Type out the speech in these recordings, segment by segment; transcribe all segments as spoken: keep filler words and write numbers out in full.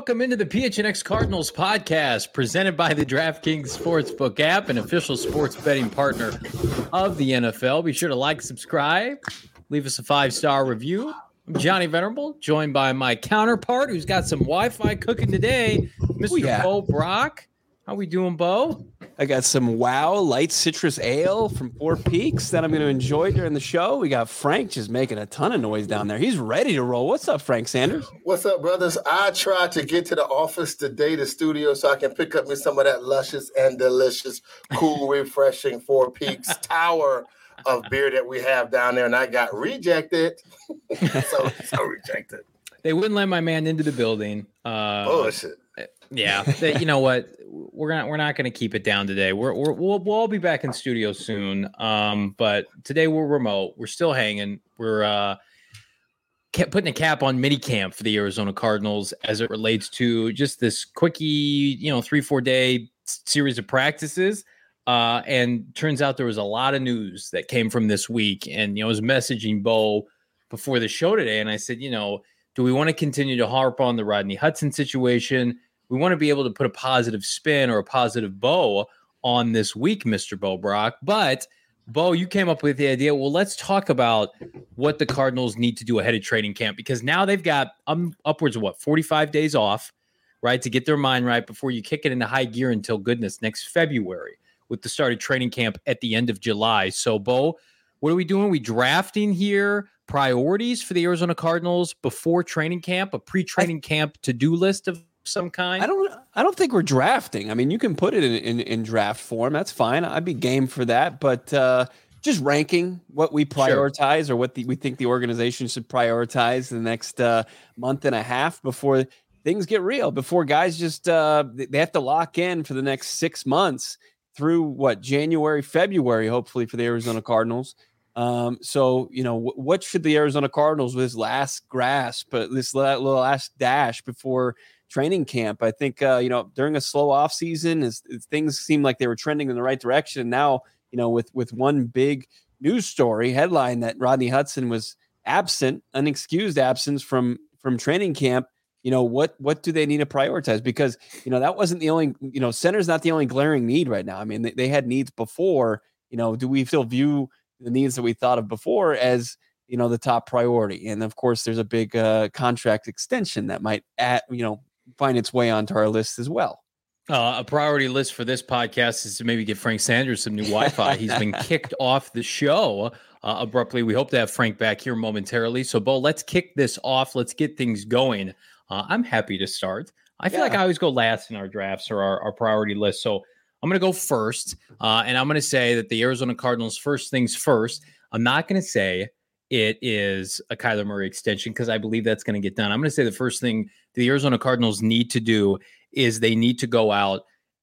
welcome into the P H N X Cardinals podcast presented by the DraftKings Sportsbook app, an official sports betting partner of the N F L. Be sure to like, subscribe, leave us a five-star review. I'm Johnny Venerable, joined by my counterpart who's got some Wi-Fi cooking today, Mister Ooh, yeah. Bo Brock. How we doing, Bo? I got some Wow Light Citrus Ale from Four Peaks that I'm going to enjoy during the show. We got Frank just making a ton of noise down there. He's ready to roll. What's up, Frank Sanders? What's up, brothers? I tried to get to the office today, the studio, so I can pick up me some of that luscious and delicious, cool, refreshing Four Peaks tower of beer that we have down there, and I got rejected. so, so rejected. They wouldn't let my man into the building. Uh, Bullshit. Yeah, they, you know what? We're gonna we're not gonna keep it down today. We're, we're we'll we'll all be back in studio soon. Um, but today we're remote. We're still hanging. We're uh kept putting a cap on mini camp for the Arizona Cardinals as it relates to just this quickie, you know, three four day series of practices. Uh, and turns out there was a lot of news that came from this week. And you know, I was messaging Bo before the show today, and I said, you know, do we want to continue to harp on the Rodney Hudson situation? We want to be able to put a positive spin or a positive bow on this week, Mister Bo Brock. But, Bo, you came up with the idea, well, let's talk about what the Cardinals need to do ahead of training camp, because now they've got um, upwards of, what, forty-five days off, right, to get their mind right before you kick it into high gear until, goodness, next February with the start of training camp at the end of July. So, Bo, what are we doing? Are we drafting here priorities for the Arizona Cardinals before training camp, a pre-training I, camp to-do list of some kind? I don't I don't think we're drafting. I mean, you can put it in, in, in draft form. That's fine. I'd be game for that. But uh, just ranking what we prioritize sure. or what the, we think the organization should prioritize the next uh, month and a half before things get real, before guys just uh, they have to lock in for the next six months through, what, January, February, hopefully, for the Arizona Cardinals. Um, so, you know, w- what should the Arizona Cardinals with this last grasp, uh, this la- little last dash before training camp? I think, uh, you know, during a slow off season, as, as things seemed like they were trending in the right direction. And now, you know, with, with one big news story headline that Rodney Hudson was absent, unexcused absence from, from training camp, you know, what, what do they need to prioritize? Because, you know, that wasn't the only, you know, center's not the only glaring need right now. I mean, they, they had needs before. You know, do we still view the needs that we thought of before as, you know, the top priority? And of course, there's a big uh, contract extension that might, add, you know, find its way onto our list as well. Uh, a priority list for this podcast is to maybe get Frank Sanders some new Wi-Fi. He's been kicked off the show uh, abruptly. We hope to have Frank back here momentarily. So, Bo, let's kick this off. Let's get things going. Uh, I'm happy to start. I feel yeah. like I always go last in our drafts or our, our priority list. So I'm going to go first, uh, and I'm going to say that the Arizona Cardinals, first things first. I'm not going to say it is a Kyler Murray extension because I believe that's going to get done. I'm going to say the first thing the Arizona Cardinals need to do is they need to go out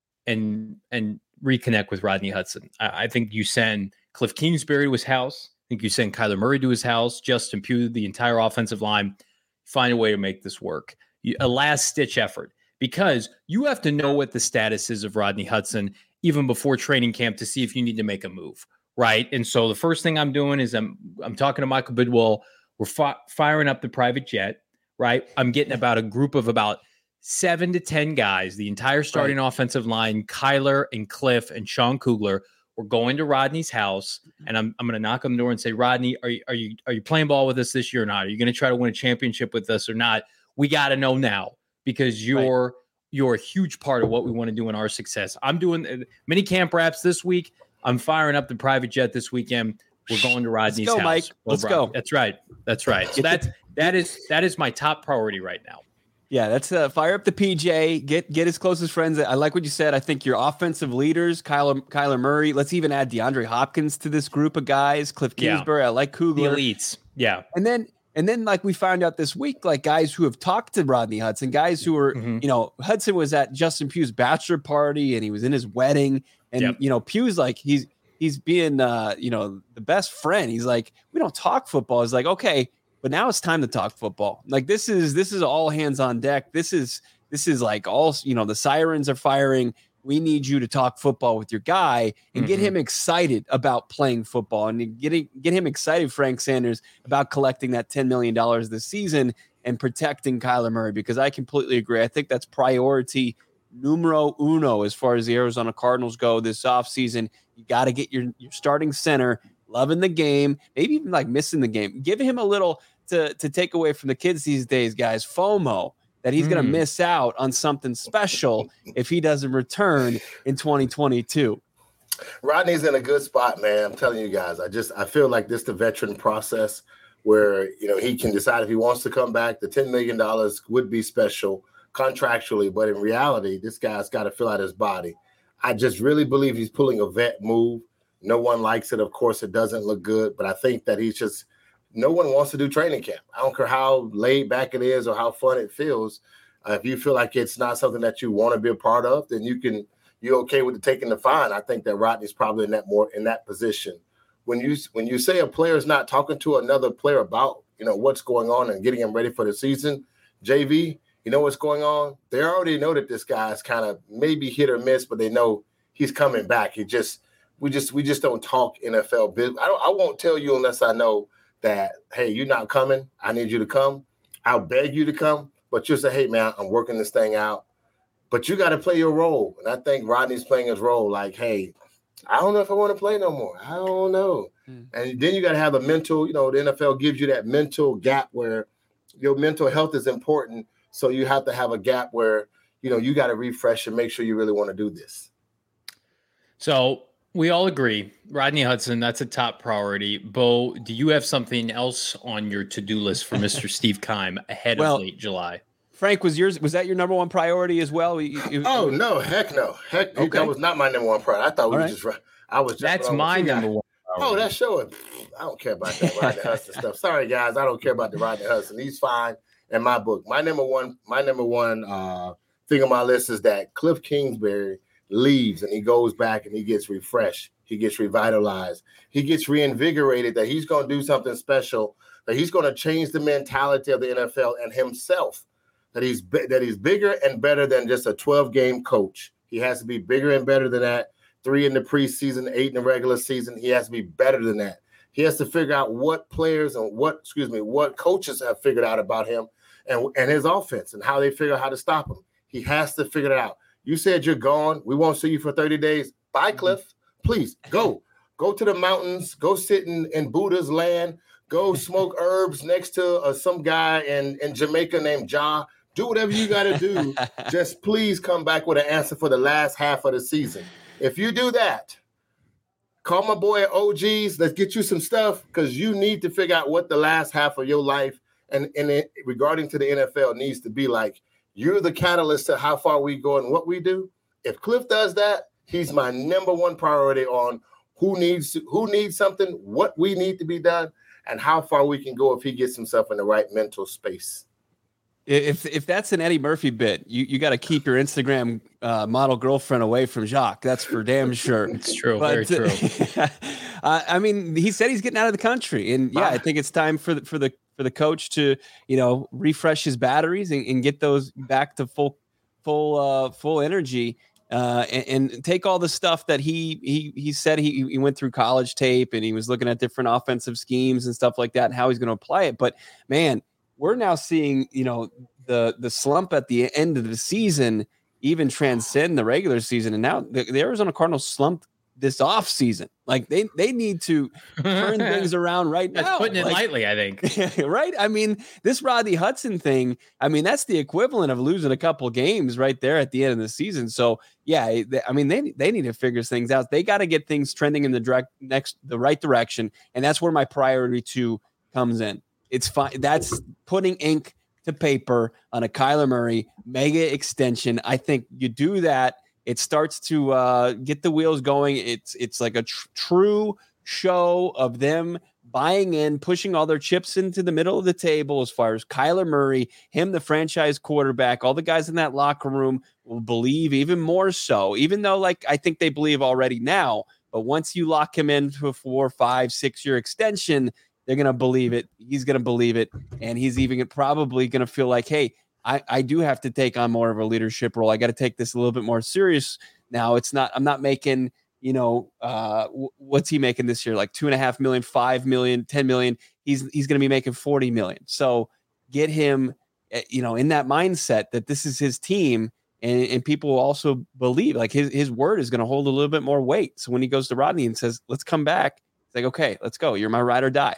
and and reconnect with Rodney Hudson. I, I think you send Cliff Kingsbury to his house. I think you send Kyler Murray to his house, Justin Pugh, the entire offensive line. Find a way to make this work. You, a last-ditch effort, because you have to know what the status is of Rodney Hudson even before training camp to see if you need to make a move, right? And so the first thing I'm doing is I'm I'm talking to Michael Bidwell. We're fi- firing up the private jet, right? I'm getting about a group of about seven to ten guys, the entire starting right. offensive line, Kyler and Cliff and Sean Kugler. We're going to Rodney's house, and I'm I'm going to knock on the door and say, Rodney, are you are you are you playing ball with us this year or not? Are you going to try to win a championship with us or not? We got to know now, because you're right. you're a huge part of what we want to do in our success. I'm doing uh, mini camp wraps this week. I'm firing up the private jet this weekend. We're going to Rodney's Let's go, house. Mike. Let's go. That's right. That's right. So that's that is that is my top priority right now. Yeah, that's uh, fire up the P J. Get get his closest friends. I like what you said. I think your offensive leaders, Kyler Kyler Murray. Let's even add DeAndre Hopkins to this group of guys. Cliff Kingsbury. Yeah. I like Kugler. The elites. Yeah, and then and then like we found out this week, like guys who have talked to Rodney Hudson, guys who were mm-hmm. you know Hudson was at Justin Pugh's bachelor party and he was in his wedding, and yep. you know Pugh's like he's he's being uh, you know the best friend. He's like, we don't talk football. He's like, okay. But now it's time to talk football. Like this is this is all hands on deck. This is this is like all, you know, the sirens are firing. We need you to talk football with your guy and mm-hmm. get him excited about playing football and getting get him excited, Frank Sanders, about collecting that ten million dollars this season. and protecting Kyler Murray, because I completely agree. I think that's priority numero uno as far as the Arizona Cardinals go this offseason. You got to get your, your starting center loving the game, maybe even like missing the game. Give him a little to, to take away from the kids these days, guys, FOMO, that he's mm. going to miss out on something special if he doesn't return in twenty twenty-two. Rodney's in a good spot, man. I'm telling you guys, I just I feel like this the veteran process where, you know, he can decide if he wants to come back. The ten million dollars would be special contractually, but in reality, this guy's got to fill out his body. I just really believe he's pulling a vet move. No one likes it. Of course, it doesn't look good, but I think that he's just no one wants to do training camp. I don't care how laid back it is or how fun it feels. Uh, if you feel like it's not something that you want to be a part of, then you can you're okay with the taking the fine. I think that Rodney's probably in that more in that position. When you when you say a player is not talking to another player about, you know, what's going on and getting him ready for the season, J V, you know what's going on? They already know that this guy's kind of maybe hit or miss, but they know he's coming back. He just we just we just don't talk N F L business. I don't, I won't tell you unless I know that, hey, you're not coming. I need you to come. I'll beg you to come, but you'll say, hey, man, I'm working this thing out. But you got to play your role. And I think Rodney's playing his role like, hey, I don't know if I want to play no more. I don't know. Mm. And then you got to have a mental, you know, the N F L gives you that mental gap where your mental health is important. So you have to have a gap where, you know, you got to refresh and make sure you really want to do this. So we all agree, Rodney Hudson, that's a top priority. Bo, do you have something else on your to-do list for Mister Steve Keim ahead well, of late July? Frank, was yours was that your number one priority as well? You, you, oh no, heck no, heck okay. That was not my number one priority. I thought we were right. just. I was. Just, That's my number one. Priority. Oh, that's showing. I don't care about that Rodney Hudson stuff. Sorry, guys, I don't care about the Rodney Hudson. He's fine in my book. My number one, my number one uh, thing on my list is that Cliff Kingsbury leaves and he goes back and he gets refreshed. He gets revitalized. He gets reinvigorated. That he's going to do something special. That he's going to change the mentality of the N F L and himself. That he's that he's bigger and better than just a twelve-game coach. He has to be bigger and better than that. Three in the preseason, eight in the regular season. He has to be better than that. He has to figure out what players and what, excuse me, what coaches have figured out about him and, and his offense and how they figure out how to stop him. He has to figure it out. You said you're gone. We won't see you for thirty days. Bye, Cliff. Please go. Go to the mountains. Go sit in, in Buddha's land. Go smoke herbs next to uh, some guy in, in Jamaica named Ja. Do whatever you got to do. Just please come back with an answer for the last half of the season. If you do that, call my boy at O G's. Let's get you some stuff because you need to figure out what the last half of your life and, and it, regarding to the N F L needs to be like. You're the catalyst to how far we go and what we do. If Cliff does that, he's my number one priority on who needs who needs something, what we need to be done, and how far we can go if he gets himself in the right mental space. If if that's an Eddie Murphy bit, you, you got to keep your Instagram uh, model girlfriend away from Jacques. That's for damn sure. It's true. But, very true. uh, I mean, he said he's getting out of the country, and yeah, I think it's time for the, for the for the coach to, you know, refresh his batteries and, and get those back to full full uh, full energy. Uh, and, and take all the stuff that he he he said he he went through college tape and he was looking at different offensive schemes and stuff like that and how he's going to apply it. But man, we're now seeing, you know, the the slump at the end of the season even transcend the regular season. And now the, the Arizona Cardinals slumped this off season. Like they they need to turn things around right that's now. Putting it like, lightly, I think. Right? I mean, this Rodney Hudson thing, I mean, that's the equivalent of losing a couple games right there at the end of the season. So yeah, they, I mean, they they need to figure things out. They got to get things trending in the direct next the right direction. And that's where my priority two comes in. It's fine. That's putting ink to paper on a Kyler Murray mega extension. I think you do that, it starts to uh, get the wheels going. It's it's like a tr- true show of them buying in, pushing all their chips into the middle of the table as far as Kyler Murray, him, the franchise quarterback. All the guys in that locker room will believe even more so, even though, like, I think they believe already now. But once you lock him into a four, five, six-year extension, they're going to believe it. He's going to believe it. And he's even probably going to feel like, hey, I, I do have to take on more of a leadership role. I got to take this a little bit more serious now. It's not, I'm not making, you know, uh, w- what's he making this year? Like two and a half million, five million, ten million. He's, he's going to be making forty million. So get him, you know, in that mindset that this is his team. And, and people also believe like his, his word is going to hold a little bit more weight. So when he goes to Rodney and says, let's come back, it's like, okay, let's go. You're my ride or die.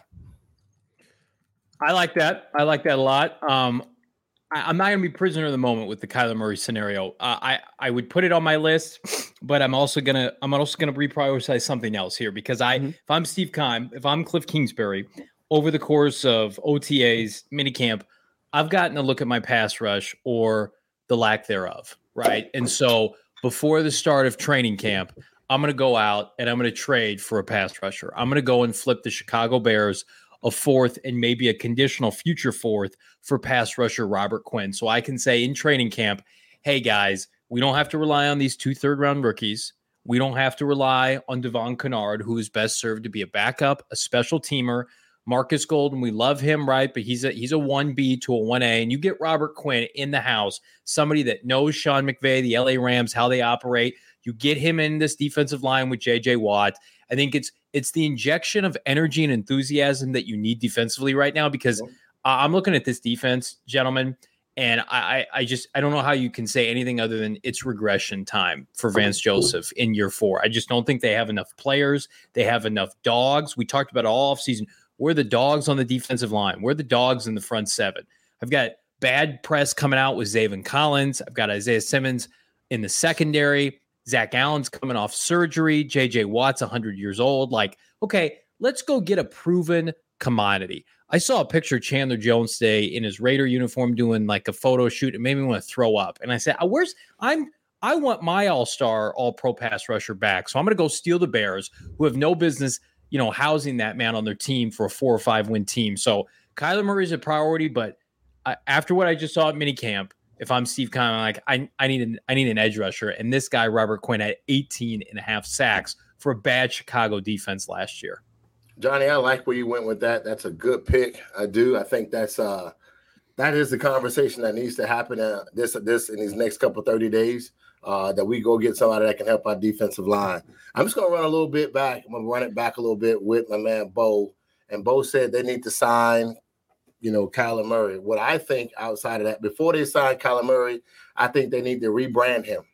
I like that. I like that a lot. Um, I, I'm not going to be prisoner of the moment with the Kyler Murray scenario. Uh, I, I would put it on my list, but I'm also going to, I'm also going to reprioritize something else here because I, mm-hmm. if I'm Steve Keim, if I'm Cliff Kingsbury, over the course of O T As, minicamp, I've gotten a look at my pass rush or the lack thereof, right? And so before the start of training camp, I'm going to go out and I'm going to trade for a pass rusher. I'm going to go and flip the Chicago Bears a fourth and maybe a conditional future fourth for pass rusher Robert Quinn. So I can say in training camp, hey guys, we don't have to rely on these two third round rookies. We don't have to rely on Devon Kennard, who is best served to be a backup, a special teamer. Marcus Golden, we love him, right? But he's a he's a one B to a one A, and you get Robert Quinn in the house, somebody that knows Sean McVay, the L A Rams, how they operate. You get him in this defensive line with J J Watt. I think it's it's the injection of energy and enthusiasm that you need defensively right now because uh, I'm looking at this defense, gentlemen, and I I just I don't know how you can say anything other than it's regression time for Vance Joseph in year four. I just don't think they have enough players. They have enough dogs. We talked about it all offseason. We're the dogs on the defensive line. We're the dogs in the front seven. I've got bad press coming out with Zaven Collins. I've got Isaiah Simmons in the secondary. Zach Allen's coming off surgery. J J Watt's one hundred years old. Like, okay, let's go get a proven commodity. I saw a picture of Chandler Jones today in his Raider uniform doing like a photo shoot. It made me want to throw up. And I said, where's I'm I want my all-star, all-pro pass rusher back. So I'm going to go steal the Bears, who have no business you know, housing that man on their team for a four or five win team. So Kyler Murray is a priority, but I, after what I just saw at minicamp, if I'm Steve Keim, I'm like, I, I need an, I need an edge rusher. And this guy, Robert Quinn, had eighteen and a half sacks for a bad Chicago defense last year. Johnny, I like where you went with that. That's a good pick. I do. I think that's uh, that is the conversation that needs to happen uh, this, this in these next couple thirty days. Uh, that we go get somebody that can help our defensive line. I'm just going to run a little bit back. I'm going to run it back a little bit with my man, Bo. And Bo said they need to sign, you know, Kyler Murray. What I think outside of that, before they sign Kyler Murray, I think they need to rebrand him.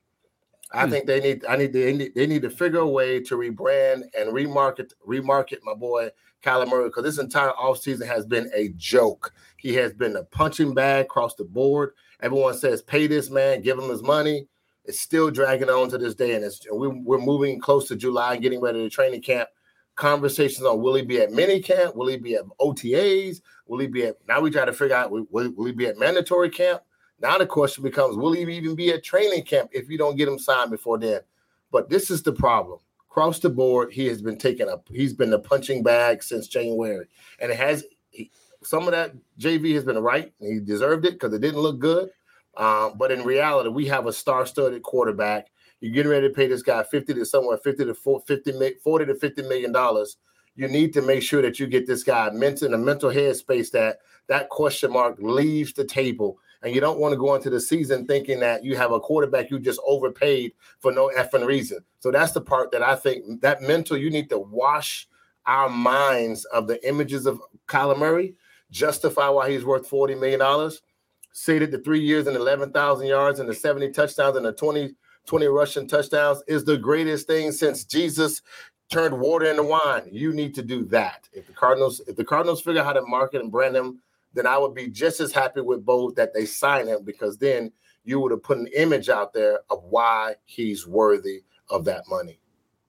I hmm. think they need, I need, they need, they need to figure a way to rebrand and remarket, remarket my boy Kyler Murray, because this entire offseason has been a joke. He has been a punching bag across the board. Everyone says, pay this man, give him his money. It's still dragging on to this day, and it's, we, we're moving close to July and getting ready to training camp. Conversations on will he be at mini camp? Will he be at O T As? Will he be at – now we try to figure out will, will he be at mandatory camp? Now the question becomes, will he even be at training camp if you don't get him signed before then? But this is the problem. Across the board, he has been taking a – he's been the punching bag since January. And it has he, – some of that J V has been right, and he deserved it because it didn't look good. Um, but in reality, we have a star-studded quarterback. You're getting ready to pay this guy fifty to somewhere fifty to fifty, forty to fifty million dollars. You need to make sure that you get this guy mental in a mental headspace that that question mark leaves the table, and you don't want to go into the season thinking that you have a quarterback you just overpaid for no effing reason. So that's the part that I think that mental. You need to wash our minds of the images of Kyler Murray, justify why he's worth forty million dollars. Say that the three years and eleven thousand yards and the seventy touchdowns and the twenty, twenty rushing touchdowns is the greatest thing since Jesus turned water into wine. You need to do that. If the Cardinals, if the Cardinals figure out how to market and brand him, then I would be just as happy with both that they sign him, because then you would have put an image out there of why he's worthy of that money.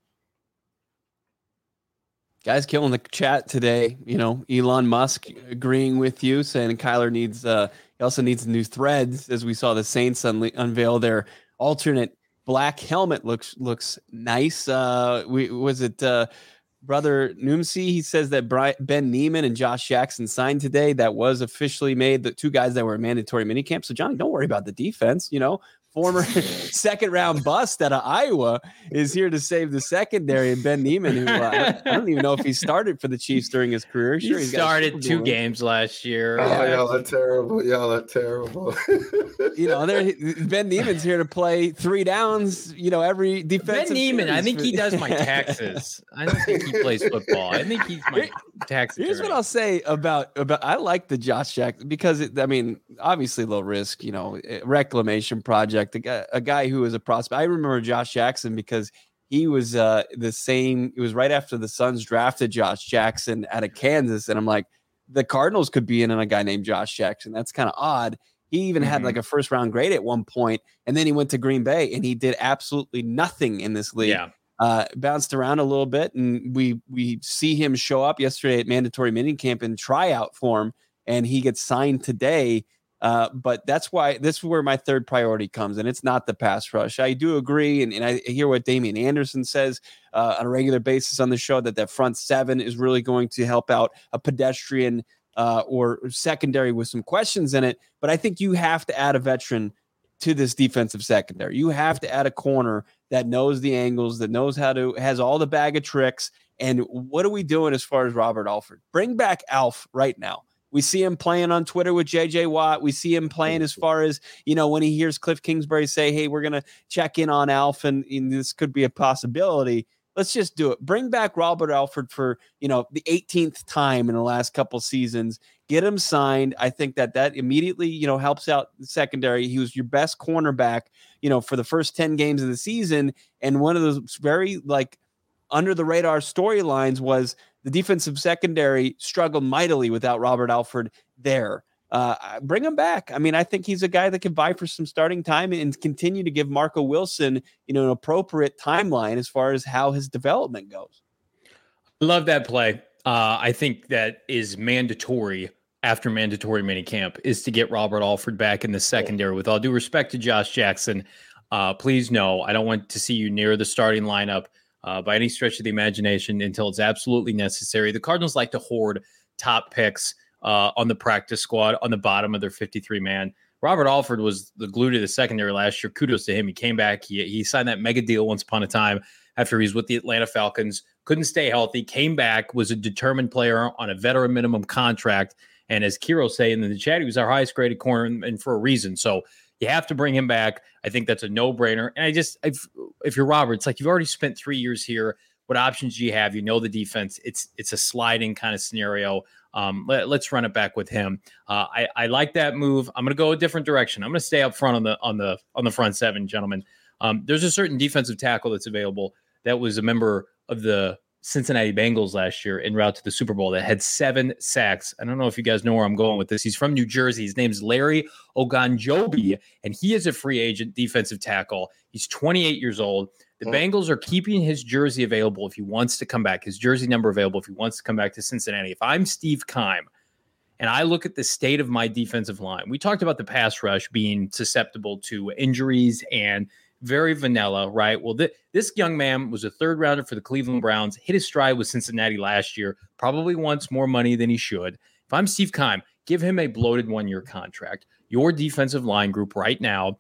Guys killing the chat today. You know, Elon Musk agreeing with you, saying Kyler needs, uh, he also needs new threads, as we saw the Saints un- unveil their alternate black helmet. Looks looks nice. Uh, we, was it uh, Brother Noomsy? He says that Brian, Ben Neiman and Josh Jackson signed today. That was officially made. The two guys that were in mandatory minicamp. So, Johnny, don't worry about the defense. You know, former second round bust out of Iowa, is here to save the secondary. And Ben Niemann, who uh, I don't even know if he started for the Chiefs during his career. Sure, he he's started two games last year. Oh, yeah. Y'all are terrible. Y'all are terrible. You know, Ben Niemann's here to play three downs. You know, every defensive. Ben Niemann, I think he does my taxes. I don't think he plays football. I think he's my tax attorney. Here's what I'll say about about. I like the Josh Jackson because it, I mean, obviously low risk. You know, reclamation project. A guy, a guy who was a prospect. I remember Josh Jackson because he was uh, the same. It was right after the Suns drafted Josh Jackson out of Kansas, and I'm like, the Cardinals could be in on a guy named Josh Jackson. That's kind of odd. He even mm-hmm. had like a first round grade at one point, and then he went to Green Bay and he did absolutely nothing in this league. Yeah. Uh, bounced around a little bit, and we we see him show up yesterday at mandatory minicamp and tryout form, and he gets signed today. Uh, but that's why this is where my third priority comes, and it's not the pass rush. I do agree, and, and I hear what Damian Anderson says uh, on a regular basis on the show, that that front seven is really going to help out a pedestrian uh, or secondary with some questions in it. But I think you have to add a veteran to this defensive secondary. You have to add a corner that knows the angles, that knows how to, has all the bag of tricks. And what are we doing as far as Robert Alford? Bring back Alf right now. We see him playing on Twitter with J J Watt. We see him playing as far as, you know, when he hears Cliff Kingsbury say, hey, we're going to check in on Alf and, and this could be a possibility. Let's just do it. Bring back Robert Alford for, you know, the eighteenth time in the last couple seasons. Get him signed. I think that that immediately, you know, helps out the secondary. He was your best cornerback, you know, for the first ten games of the season. And one of those very like under the radar storylines was the defensive secondary struggled mightily without Robert Alford there. Uh, bring him back. I mean, I think he's a guy that can vie for some starting time and continue to give Marco Wilson, you know, an appropriate timeline as far as how his development goes. Love that play. Uh, I think that is mandatory after mandatory minicamp is to get Robert Alford back in the secondary. With all due respect to Josh Jackson, uh, please no, I don't want to see you near the starting lineup uh, by any stretch of the imagination until it's absolutely necessary. The Cardinals like to hoard top picks Uh, on the practice squad on the bottom of their fifty-three man. Robert Alford was the glue to the secondary last year. Kudos to him. He came back. He, he signed that mega deal once upon a time after he was with the Atlanta Falcons. Couldn't stay healthy. Came back, was a determined player on a veteran minimum contract. And as Kiro saying in the chat, he was our highest graded corner and, and for a reason. So you have to bring him back. I think that's a no-brainer. And I just, I've, if you're Robert, it's like you've already spent three years here. What options do you have? You know the defense. It's it's a sliding kind of scenario. Um, let, let's run it back with him. Uh, I, I like that move. I'm going to go a different direction. I'm going to stay up front on the on the on the front seven, gentlemen. Um, there's a certain defensive tackle that's available that was a member of the Cincinnati Bengals last year en route to the Super Bowl that had seven sacks. I don't know if you guys know where I'm going with this. He's from New Jersey. His name's Larry Ogunjobi, and he is a free agent defensive tackle. He's twenty-eight years old. The Bengals are keeping his jersey available if he wants to come back, his jersey number available if he wants to come back to Cincinnati. If I'm Steve Keim and I look at the state of my defensive line, we talked about the pass rush being susceptible to injuries and very vanilla, right? Well, th- this young man was a third rounder for the Cleveland Browns, hit his stride with Cincinnati last year, probably wants more money than he should. If I'm Steve Keim, give him a bloated one-year contract. Your defensive line group right now,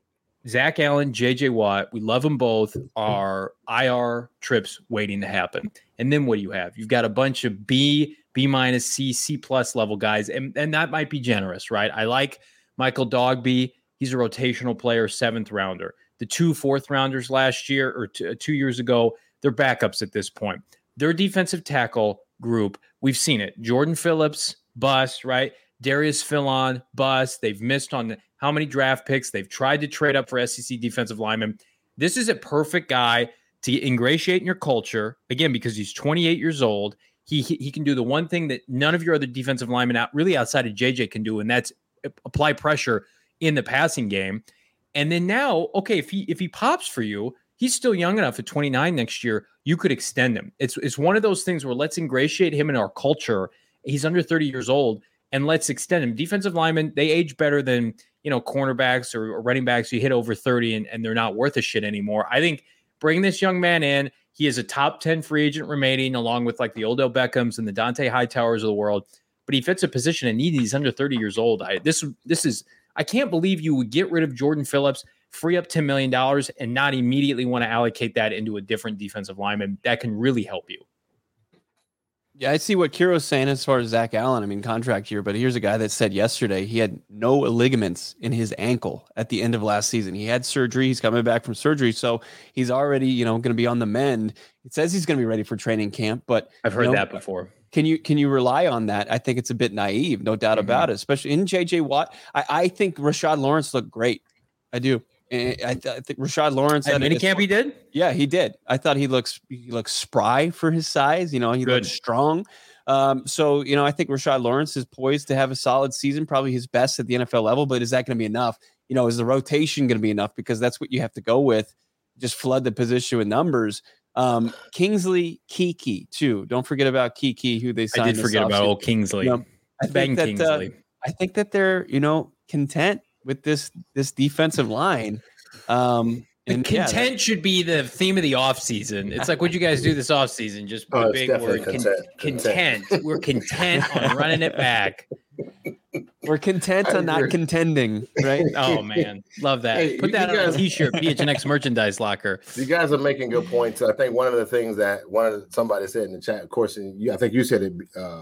Zach Allen, J J Watt, we love them both, are I R trips waiting to happen. And then what do you have? You've got a bunch of B, B minus, C, C plus level guys, and, and that might be generous, right? I like Michael Dogby. He's a rotational player, seventh rounder. The two fourth rounders last year or two, two years ago, they're backups at this point. Their defensive tackle group, we've seen it. Jordan Phillips, bust, right? Darius Philon, bust. They've missed on the, how many draft picks. They've tried to trade up for S E C defensive linemen. This is a perfect guy to ingratiate in your culture, again, because he's twenty-eight years old. He, he, he can do the one thing that none of your other defensive linemen out really outside of J J can do, and that's apply pressure in the passing game. And then now, okay, if he if he pops for you, he's still young enough at twenty-nine next year, you could extend him. It's, it's one of those things where let's ingratiate him in our culture. He's under thirty years old. And let's extend him. Defensive linemen, they age better than, you know, cornerbacks or, or running backs. You hit over thirty and, and they're not worth a shit anymore. I think bring this young man in. He is a top ten free agent remaining, along with like the Odell Beckhams and the Dante Hightowers of the world. But he fits a position in need. He's under thirty years old. I this this is I can't believe you would get rid of Jordan Phillips, free up ten million dollars and not immediately want to allocate that into a different defensive lineman. That can really help you. Yeah, I see what Kiro's saying as far as Zach Allen. I mean, contract year, but here's a guy that said yesterday he had no ligaments in his ankle at the end of last season. He had surgery. He's coming back from surgery, so he's already, you know, going to be on the mend. It says he's going to be ready for training camp, but I've heard you know, that before. Can you can you rely on that? I think it's a bit naive, no doubt mm-hmm. about it, especially in J J Watt. I, I think Rashad Lawrence looked great. I do. I, th- I think Rashad Lawrence at minicamp he did. Yeah, he did. I thought he looks he looks spry for his size. You know, he Good. looks strong. Um, so you know, I think Rashad Lawrence is poised to have a solid season, probably his best at the N F L level. But is that going to be enough? You know, is the rotation going to be enough? Because that's what you have to go with. Just flood the position with numbers. Um, Kingsley Kiki too. Don't forget about Kiki, who they signed. I did forget about old Kingsley. You know, I Bang think that, Kingsley. Uh, I think that they're you know content with this this defensive line. Um, and content yeah, should be the theme of the offseason. It's like, what'd you guys do this offseason? Just oh, a big word. Content. Con- content. We're content on running it back. We're content on not contending, right? Oh, man. Love that. Hey, Put that on guys, a T-shirt, P H N X merchandise locker. You guys are making good points. I think one of the things that one of the, somebody said in the chat, of course, and you, I think you said it, uh,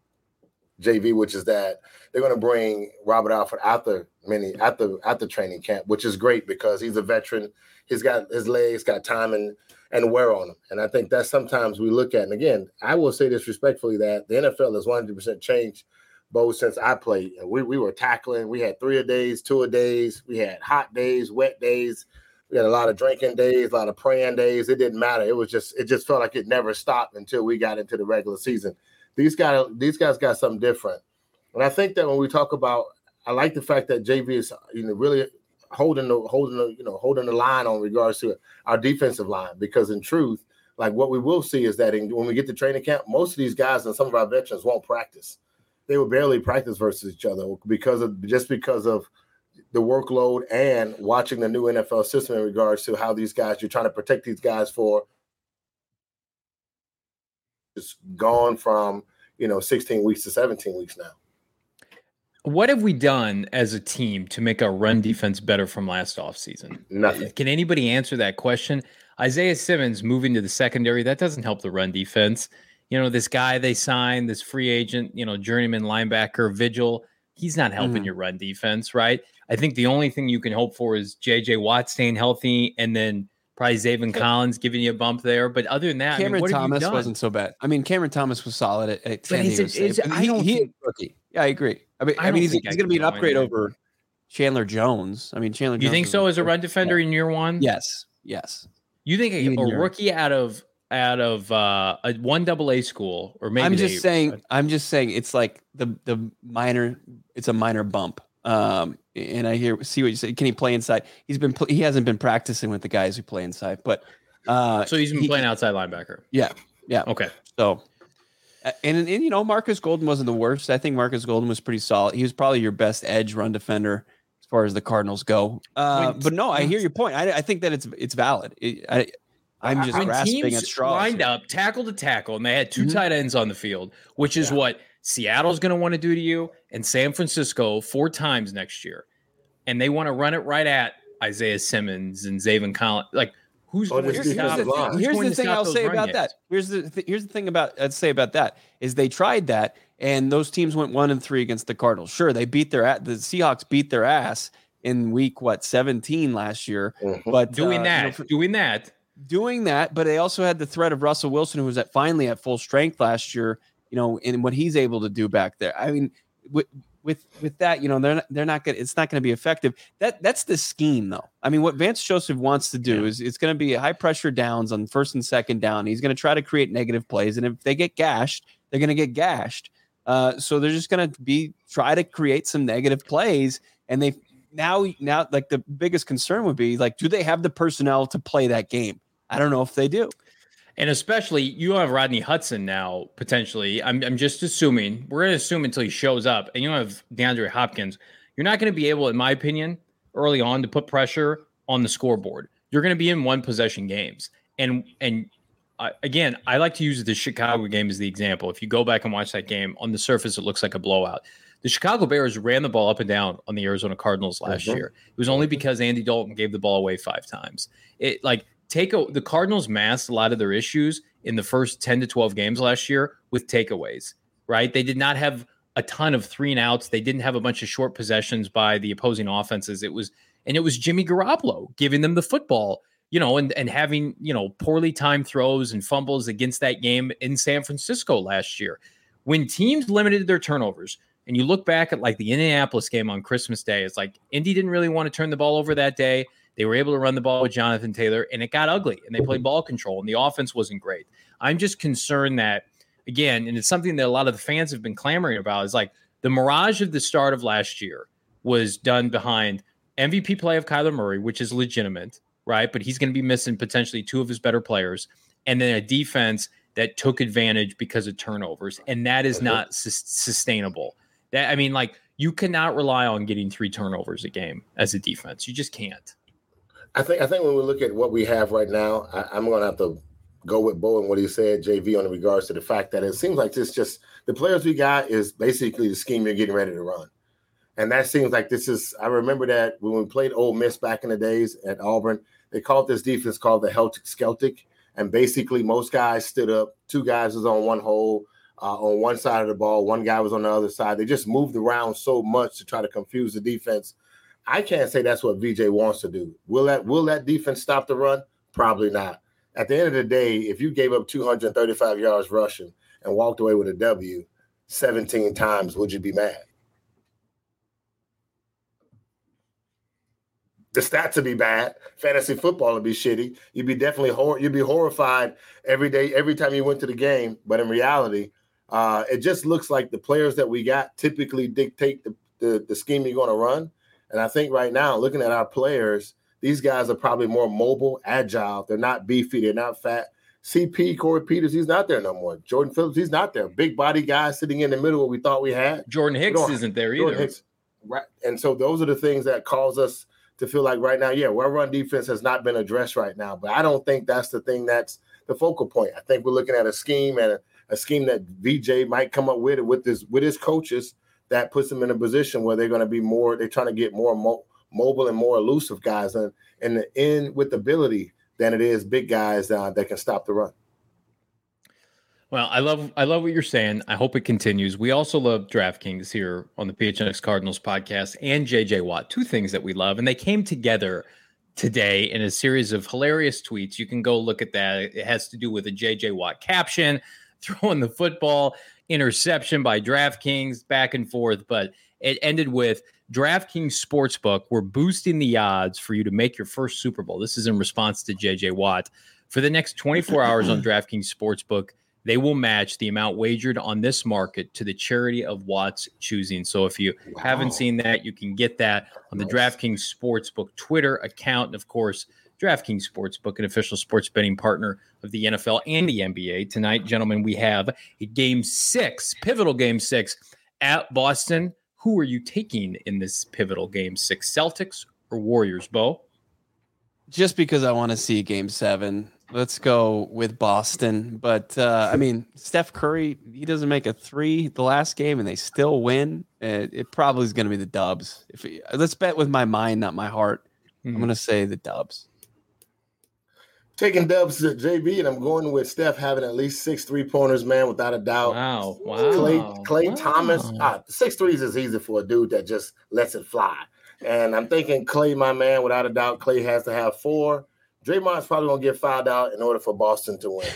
J V, which is that they're going to bring Robert Alford out the mini at the at the training camp, which is great because he's a veteran. He's got his legs, got time and and wear on him. And I think that sometimes we look at, and again, I will say this respectfully, that the N F L has one hundred percent changed, Bo, since I played. We we were tackling. We had three a days, two a days. We had hot days, wet days. We had a lot of drinking days, a lot of praying days. It didn't matter. It was just it just felt like it never stopped until we got into the regular season. These guys, these guys got something different. And I think that when we talk about, I like the fact that J V is, you know, really holding the holding the you know holding the line on regards to our defensive line, because in truth, like what we will see is that in, when we get to training camp, most of these guys and some of our veterans won't practice. They will barely practice versus each other because of just because of the workload and watching the new N F L system in regards to how these guys, you're trying to protect these guys for just gone from, you know, sixteen weeks to seventeen weeks now. What have we done as a team to make our run defense better from last offseason? Nothing. Can anybody answer that question? Isaiah Simmons moving to the secondary, that doesn't help the run defense. You know, this guy they signed, this free agent, you know, journeyman linebacker, Vigil, he's not helping mm. your run defense, right? I think the only thing you can hope for is J J Watt staying healthy and then probably Zaven Collins giving you a bump there. But other than that, Cameron I mean, what Thomas have you done? wasn't so bad. I mean, Cameron Thomas was solid at, at San Diego State. I don't he, think, he rookie. Yeah, I agree. I mean, I, I mean, he's, he's I going to be an upgrade anywhere. over Chandler Jones. I mean, Chandler You Jones. think so as a run defender yeah. in year one? Yes. Yes. You think a, a rookie out of out of uh, a one double A school, or maybe I'm just they, saying. Uh, I'm just saying it's like the the minor. It's a minor bump. Um, and I hear see what you say. Can he play inside? He's been he hasn't been practicing with the guys who play inside, but uh, so he's been he, playing outside linebacker. Yeah. Yeah. Okay. So. And, and you know, Marcus Golden wasn't the worst. I think Marcus Golden was pretty solid. He was probably your best edge run defender as far as the Cardinals go. Uh, but no, I hear your point. I, I think that it's it's valid. It, I, I'm just when grasping teams at straws. Lined here. up, tackle to tackle, and they had two mm-hmm. tight ends on the field, which is yeah. what Seattle's going to want to do to you, and San Francisco four times next year, and they want to run it right at Isaiah Simmons and Zaven Collins. Like, who's oh, going here's to stop? The thing, who's here's going the to thing I'll say about games? that. Here's the th- here's the thing about I'd say about that is they tried that, and those teams went one and three against the Cardinals. Sure, they beat their the Seahawks beat their ass in week what seventeen last year, mm-hmm. but doing uh, that, you know, for, doing that. Doing that, but they also had the threat of Russell Wilson, who was at finally at full strength last year. You know, and what he's able to do back there. I mean, with with with that, you know, they're not, they're not going. It's not going to be effective. That that's the scheme, though. I mean, what Vance Joseph wants to do yeah. is it's going to be high pressure downs on first and second down. He's going to try to create negative plays, and if they get gashed, they're going to get gashed. Uh, so they're just going to be try to create some negative plays, and they now now like the biggest concern would be like, do they have the personnel to play that game? I don't know if they do. And especially you have Rodney Hudson now, potentially. I'm I'm just assuming. We're going to assume until he shows up. And you have DeAndre Hopkins. You're not going to be able, in my opinion, early on to put pressure on the scoreboard. You're going to be in one possession games. And, and uh, again, I like to use the Chicago game as the example. If you go back and watch that game, on the surface, it looks like a blowout. The Chicago Bears ran the ball up and down on the Arizona Cardinals last mm-hmm. year. It was only because Andy Dalton gave the ball away five times. It like take a, the Cardinals masked a lot of their issues in the first ten to twelve games last year with takeaways, right? They did not have a ton of three and outs. They didn't have a bunch of short possessions by the opposing offenses. It was, and it was Jimmy Garoppolo giving them the football, you know, and, and having, you know, poorly timed throws and fumbles against that game in San Francisco last year. When teams limited their turnovers, and you look back at like the Indianapolis game on Christmas Day, it's like Indy didn't really want to turn the ball over that day. They were able to run the ball with Jonathan Taylor, and it got ugly, and they played ball control, and the offense wasn't great. I'm just concerned that, again, and it's something that a lot of the fans have been clamoring about, is like the mirage of the start of last year was done behind M V P play of Kyler Murray, which is legitimate, right? But he's going to be missing potentially two of his better players, and then a defense that took advantage because of turnovers, and that is not su- sustainable. That I mean, like, you cannot rely on getting three turnovers a game as a defense. You just can't. I think I think when we look at what we have right now, I, I'm going to have to go with Bo and what he said, J V, on regards to the fact that it seems like this just the players we got is basically the scheme you're getting ready to run. And that seems like this is, I remember that when we played Ole Miss back in the days at Auburn, they called this defense called the Celtic Celtic. And basically most guys stood up, two guys was on one hole, uh, on one side of the ball, one guy was on the other side. They just moved around so much to try to confuse the defense. I can't say that's what V J wants to do. Will that will that defense stop the run? Probably not. At the end of the day, if you gave up two hundred thirty-five yards rushing and walked away with a W seventeen times, would you be mad? The stats would be bad. Fantasy football would be shitty. You'd be definitely hor- you'd be horrified every day, every time you went to the game. But in reality, uh, it just looks like the players that we got typically dictate the, the, the scheme you're going to run. And I think right now, looking at our players, these guys are probably more mobile, agile. They're not beefy. They're not fat. C P, Corey Peters, he's not there no more. Jordan Phillips, he's not there. Big body guy sitting in the middle what we thought we had. Jordan Hicks isn't there Jordan either. Hicks, right. And so those are the things that cause us to feel like right now, yeah, our run defense has not been addressed right now. But I don't think that's the thing that's the focal point. I think we're looking at a scheme and a, a scheme that V J might come up with it with his, with his coaches that puts them in a position where they're going to be more, they're trying to get more mo- mobile and more elusive guys and, and the end with ability than it is big guys uh, that can stop the run. Well, I love I love what you're saying. I hope it continues. We also love DraftKings here on the P H N X Cardinals podcast and J J Watt, two things that we love. And they came together today in a series of hilarious tweets. You can go look at that. It has to do with a J J Watt caption, throwing the football, interception by DraftKings, back and forth. But it ended with DraftKings Sportsbook. We're boosting the odds for you to make your first Super Bowl. This is in response to J J Watt. For the next twenty-four hours on DraftKings Sportsbook, they will match the amount wagered on this market to the charity of Watt's choosing. So if you wow. haven't seen that, you can get that on the nice. DraftKings Sportsbook Twitter account. And of course, DraftKings Sportsbook, an official sports betting partner of the N F L and the N B A. Tonight, gentlemen, we have a game six, pivotal game six at Boston. Who are you taking in this pivotal game six, Celtics or Warriors, Bo? Just because I want to see game seven. Let's go with Boston. But, uh, I mean, Steph Curry, he doesn't make a three the last game, and they still win. It, it probably is going to be the Dubs. If it, let's bet with my mind, not my heart. Mm-hmm. I'm going to say the Dubs. Taking Dubs at J B, and I'm going with Steph having at least six three-pointers, man, without a doubt. Wow, wow. Klay, Klay wow. Thomas, ah, six threes is easy for a dude that just lets it fly. And I'm thinking Klay, my man, without a doubt, Klay has to have four. Draymond's probably going to get fouled out in order for Boston to win.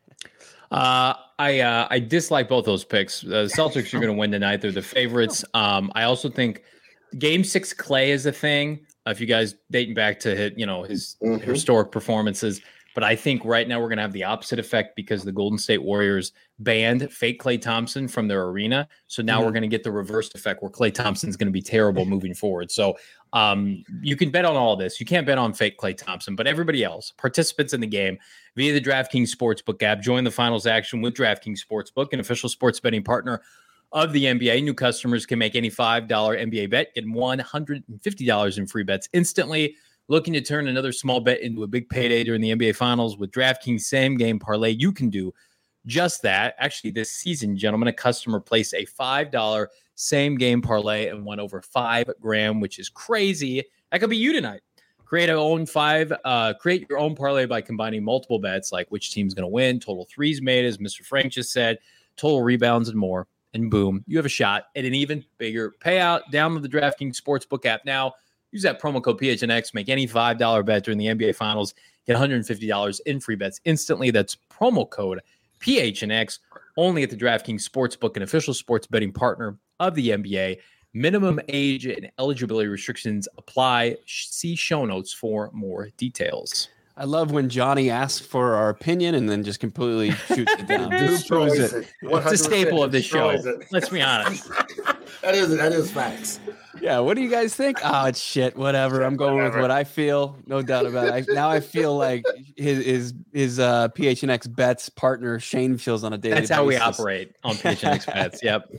uh, I uh, I dislike both those picks. Uh, the Celtics are going to win tonight. They're the favorites. Um, I also think game six Klay is a thing. Uh, if you guys dating back to his, you know, his mm-hmm. historic performances. But I think right now we're going to have the opposite effect because the Golden State Warriors banned fake Klay Thompson from their arena. So now mm-hmm. we're going to get the reversed effect where Klay Thompson's going to be terrible moving forward. So um, you can bet on all this. You can't bet on fake Klay Thompson, but everybody else, participants in the game via the DraftKings Sportsbook app, join the finals action with DraftKings Sportsbook, an official sports betting partner of the N B A. New customers can make any five dollars N B A bet, get one hundred fifty dollars in free bets instantly. Looking to turn another small bet into a big payday during the N B A Finals with DraftKings Same Game Parlay. You can do just that. Actually, this season, gentlemen, a customer placed a five dollars same game parlay and won over five grand, which is crazy. That could be you tonight. Create your own five. Uh, create your own parlay by combining multiple bets, like which team's going to win, total threes made, as Mister Frank just said, total rebounds, and more. And boom, you have a shot at an even bigger payout. Download the DraftKings Sportsbook app now. Use that promo code P H N X. Make any five dollars bet during the N B A Finals. Get one hundred fifty dollars in free bets instantly. That's promo code P H N X. Only at the DraftKings Sportsbook, an official sports betting partner of the N B A. Minimum age and eligibility restrictions apply. See show notes for more details. I love when Johnny asks for our opinion and then just completely shoots it down. Destroys it. it. It's a staple of this show. It. Let's be honest. that is that is facts. Yeah, what do you guys think? Oh, it's shit. Whatever. I'm going Whatever. with what I feel. No doubt about it. I, now I feel like his his, his uh, P H N X bets partner Shane feels on a daily basis. That's how we operate on P H N X bets. Yep.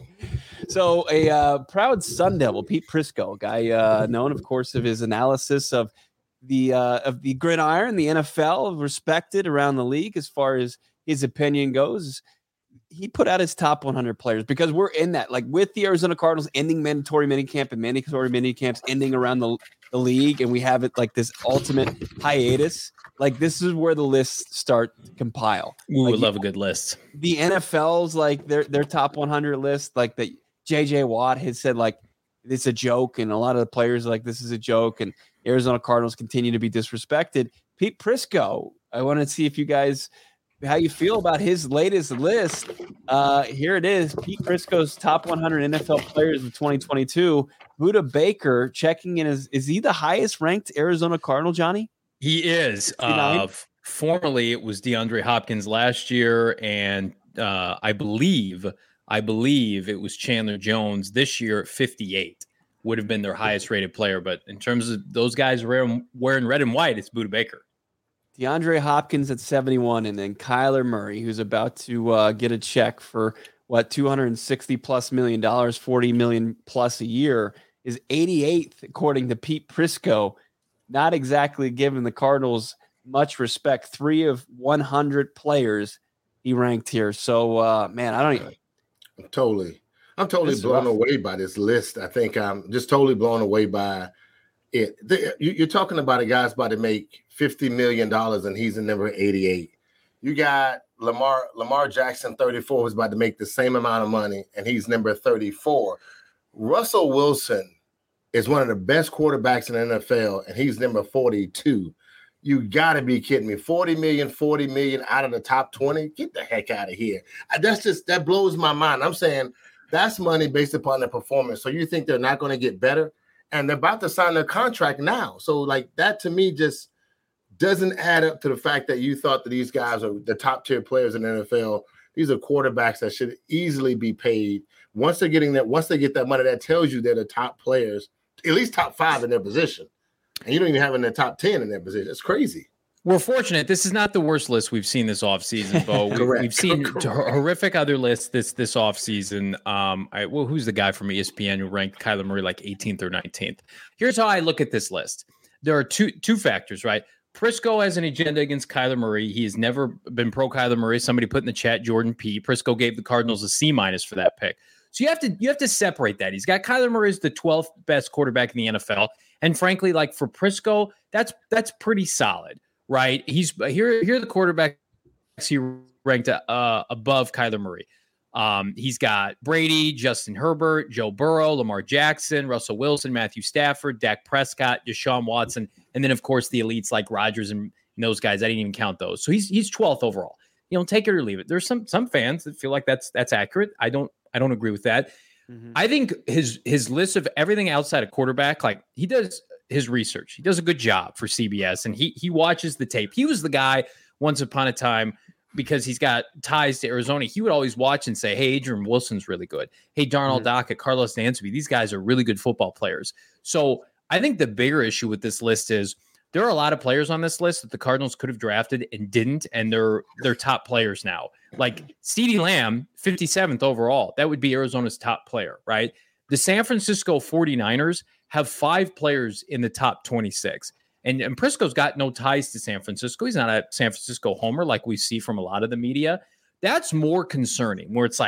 So a uh, proud Sun Devil, Pete Prisco, guy uh, known, of course, of his analysis of the uh, of the gridiron, the N F L, respected around the league as far as his opinion goes. He put out his top one hundred players because we're in that, like with the Arizona Cardinals ending mandatory minicamp and mandatory minicamps ending around the, the league, and we have it like this ultimate hiatus. Like this is where the lists start to compile. Ooh, like, I love a good list. The N F L's like their their top one hundred list, like that J J Watt had said like it's a joke, and a lot of the players are like this is a joke, and Arizona Cardinals continue to be disrespected. Pete Prisco, I want to see if you guys how you feel about his latest list. Uh, here it is. Pete Prisco's top one hundred N F L players of twenty twenty-two. Budda Baker checking in. Is, is he the highest ranked Arizona Cardinal, Johnny? He is. Uh, formerly, it was DeAndre Hopkins last year, and uh, I believe, I believe it was Chandler Jones this year. fifty-eight would have been their highest rated player. But in terms of those guys wearing, wearing red and white, it's Budda Baker. DeAndre Hopkins at seventy-one, and then Kyler Murray, who's about to uh, get a check for what two hundred sixty plus million dollars, forty million plus a year, is eighty-eighth according to Pete Prisco. Not exactly giving the Cardinals much respect. Three of one hundred players he ranked here. So, uh, man, I don't even. I'm totally, I'm totally blown rough. away by this list. I think I'm just totally blown away by it. The, you, you're talking about a guy's about to make fifty million dollars and he's in number eighty-eight. You got Lamar, Lamar Jackson, thirty-four, who's about to make the same amount of money and he's number thirty-four. Russell Wilson is one of the best quarterbacks in the N F L, and he's number forty-two. You got to be kidding me. forty million, forty million out of the top twenty? Get the heck out of here. That's just, that blows my mind. I'm saying that's money based upon their performance. So you think they're not going to get better? And they're about to sign their contract now. So, like, that to me just doesn't add up to the fact that you thought that these guys are the top-tier players in the N F L. These are quarterbacks that should easily be paid. Once they're getting that, once they get that money, that tells you they're the top players, at least top five in their position. And you don't even have in the top ten in their position. It's crazy. We're fortunate. This is not the worst list we've seen this offseason, Bo. we, we've seen horrific other lists this this offseason. Um, I, well, who's the guy from E S P N who ranked Kyler Murray like eighteenth or nineteenth? Here's how I look at this list. There are two two factors, right? Prisco has an agenda against Kyler Murray. He has never been pro Kyler Murray. Somebody put in the chat, Jordan P. Prisco gave the Cardinals a C minus for that pick. So you have to you have to separate that. He's got Kyler Murray as the twelfth best quarterback in the N F L, and frankly, like for Prisco, that's that's pretty solid, right? He's here. Here are the quarterbacks he ranked uh, above Kyler Murray. Um, he's got Brady, Justin Herbert, Joe Burrow, Lamar Jackson, Russell Wilson, Matthew Stafford, Dak Prescott, Deshaun Watson, and then of course the elites like Rodgers and, and those guys. I didn't even count those. So he's he's twelfth overall. You know, take it or leave it. There's some some fans that feel like that's that's accurate. I don't. I don't agree with that. Mm-hmm. I think his his list of everything outside of quarterback, like he does his research. He does a good job for C B S, and he he watches the tape. He was the guy once upon a time because he's got ties to Arizona. He would always watch and say, hey, Adrian Wilson's really good. Hey, Darnell mm-hmm. Dockett, Carlos Dansby, these guys are really good football players. So I think the bigger issue with this list is there are a lot of players on this list that the Cardinals could have drafted and didn't, and they're they're top players now. Like CeeDee Lamb, fifty-seventh overall. That would be Arizona's top player, right? The San Francisco forty-niners have five players in the top twenty-six. And, and Prisco's got no ties to San Francisco. He's not a San Francisco homer like we see from a lot of the media. That's more concerning, where it's like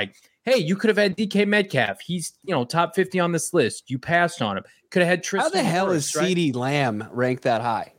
hey, you could have had D K Metcalf. He's, you know, top fifty on this list. You passed on him. Could have had Tristan. How the hell Wirfs, is right? CeeDee Lamb ranked that high?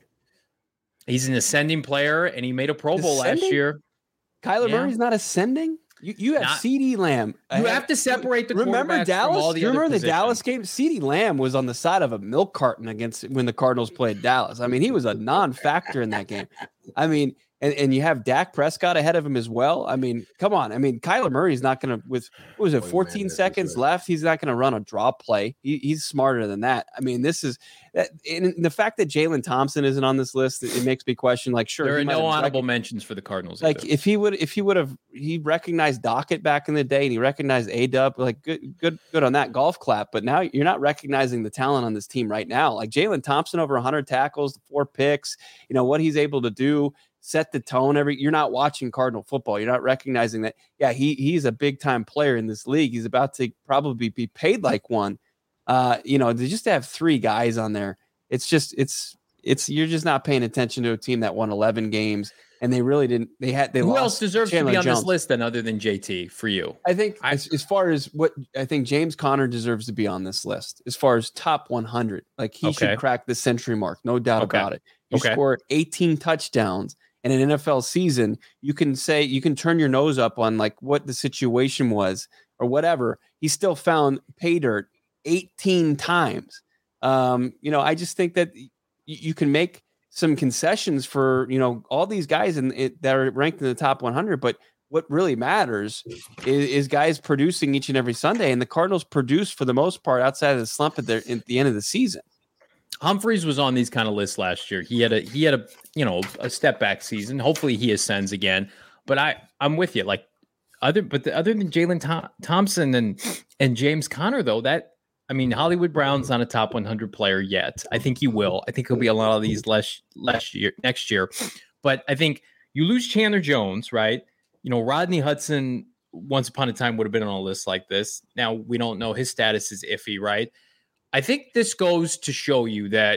He's an ascending player, and he made a Pro Bowl Ascending? last year. Kyler Yeah. Murray's not ascending? You you have Not- CeeDee Lamb. You have to separate the remember quarterbacks Dallas? from all the Do you other remember the positions. Dallas game? CeeDee Lamb was on the side of a milk carton against when the Cardinals played Dallas. I mean, he was a non-factor in that game. I mean, and, and you have Dak Prescott ahead of him as well. I mean, come on. I mean, Kyler Murray's not going to, with what was it, Oh, fourteen man, that's seconds right. left. He's not going to run a draw play. He, he's smarter than that. I mean, this is that. And the fact that Jalen Thompson isn't on this list, it, it makes me question. Like, sure, There he are might no have honorable rec- mentions for the Cardinals. Like, either. if he would, if he would have, he recognized Dockett back in the day, and he recognized A-Dub. Like, good, good, good on that golf clap. But now you're not recognizing the talent on this team right now. Like Jalen Thompson, over one hundred tackles, four picks. You know what he's able to do. Set the tone every you're not watching Cardinal football. You're not recognizing that, yeah, he he's a big time player in this league. He's about to probably be paid like one. Uh, you know, to just have three guys on there, it's just it's it's you're just not paying attention to a team that won eleven games and they really didn't they had they Who lost else deserves Chandler to be on Jones. this list then other than J T for you? I think I- as, as far as what I think James Conner deserves to be on this list, as far as top one hundred, like he Okay. should crack the century mark, no doubt Okay. about it. You Okay. score eighteen touchdowns in an N F L season, you can say you can turn your nose up on like what the situation was or whatever. He still found pay dirt eighteen times. Um, you know, I just think that y- you can make some concessions for, you know, all these guys in it that are ranked in the top one hundred, but what really matters is, is guys producing each and every Sunday, and the Cardinals produce for the most part outside of the slump at, their, at the end of the season. Humphreys was on these kind of lists last year. He had a he had a you know a step back season. Hopefully he ascends again. But I I'm with you. Like other but the, other than Jalen Thom- Thompson and and James Conner though, that I mean Hollywood Brown's not a top one hundred player yet. I think he will. I think he'll be a lot of these last last year next year. But I think you lose Chandler Jones, right? You know Rodney Hudson once upon a time would have been on a list like this. Now we don't know, his status is iffy, right? I think this goes to show you that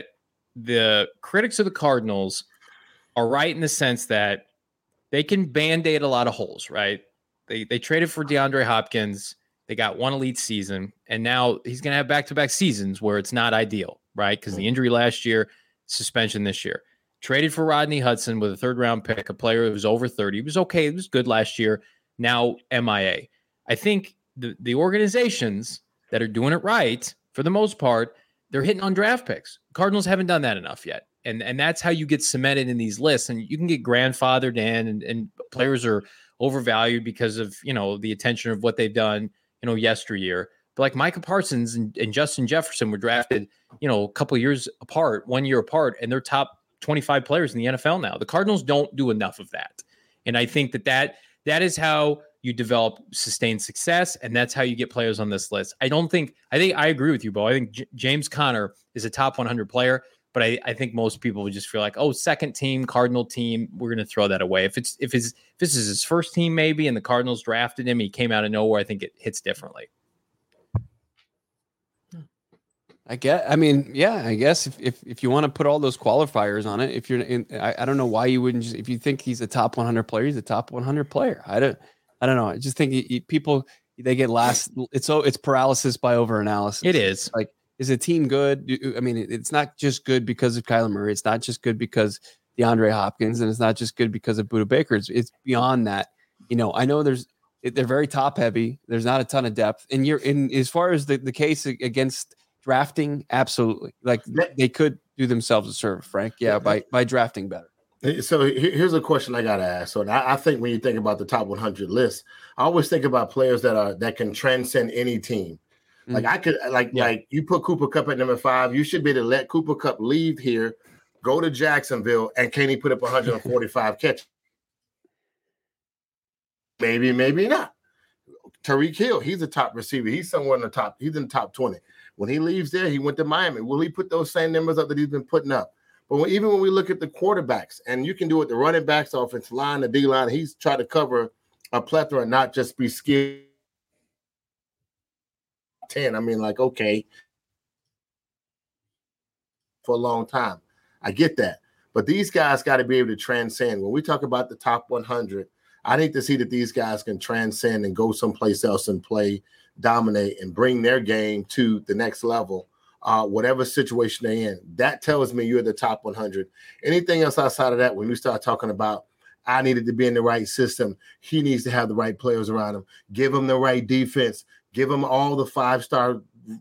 the critics of the Cardinals are right in the sense that they can band-aid a lot of holes, right? They they traded for DeAndre Hopkins. They got one elite season, and now he's going to have back-to-back seasons where it's not ideal, right? Because the injury last year, suspension this year. Traded for Rodney Hudson with a third-round pick, a player who was over thirty. He was okay. It was good last year. Now M I A. I think the, the organizations that are doing it right, for the most part, they're hitting on draft picks. Cardinals haven't done that enough yet. And and that's how you get cemented in these lists. And you can get grandfathered in, and, and players are overvalued because of, you know, the attention of what they've done, you know, yesteryear. But like Micah Parsons and, and Justin Jefferson were drafted, you know, a couple of years apart, one year apart, and they're top twenty-five players in the N F L now. The Cardinals don't do enough of that. And I think that that, that is how you develop sustained success, and that's how you get players on this list. I don't think I think I agree with you, Bo. I think J- James Conner is a top one hundred player, but I, I think most people would just feel like, oh, second team, Cardinal team, we're going to throw that away. If it's if it's if this is his first team, maybe, and the Cardinals drafted him, he came out of nowhere, I think it hits differently. I get. I mean, yeah. I guess if if, if you want to put all those qualifiers on it, if you're in, I, I don't know why you wouldn't just. If you think he's a top one hundred player, he's a top one hundred player. I don't. I don't know. I just think you, you, people they get last. It's so it's paralysis by overanalysis. It is. Like, is a team good? I mean, it's not just good because of Kyler Murray. It's not just good because DeAndre Hopkins, and it's not just good because of Budda Baker. It's, it's beyond that. You know, I know there's. They're very top heavy. There's not a ton of depth, and you're in as far as the, the case against drafting, absolutely. Like they could do themselves a service, Frank. Yeah, by by drafting better. So here's a question I gotta ask. So I, I think when you think about the top one hundred list, I always think about players that are that can transcend any team. Like mm-hmm. I could, like yeah. like you put Cooper Kupp at number five. You should be able to let Cooper Kupp leave here, go to Jacksonville, and can he put up one hundred forty-five catches? Maybe, maybe not. Tyreek Hill, he's a top receiver. He's somewhere in the top. He's in the top twenty. When he leaves there, he went to Miami. Will he put those same numbers up that he's been putting up? But when, even when we look at the quarterbacks, and you can do it, the running backs, the offensive line, the D line, he's tried to cover a plethora and not just be skilled. ten. I mean, like, okay, for a long time. I get that. But these guys got to be able to transcend. When we talk about the top one hundred, I need to see that these guys can transcend and go someplace else and play, dominate, and bring their game to the next level, uh, whatever situation they're in. That tells me you're the top one hundred. Anything else outside of that, when you start talking about, I needed to be in the right system, he needs to have the right players around him, give him the right defense, give him all the five-star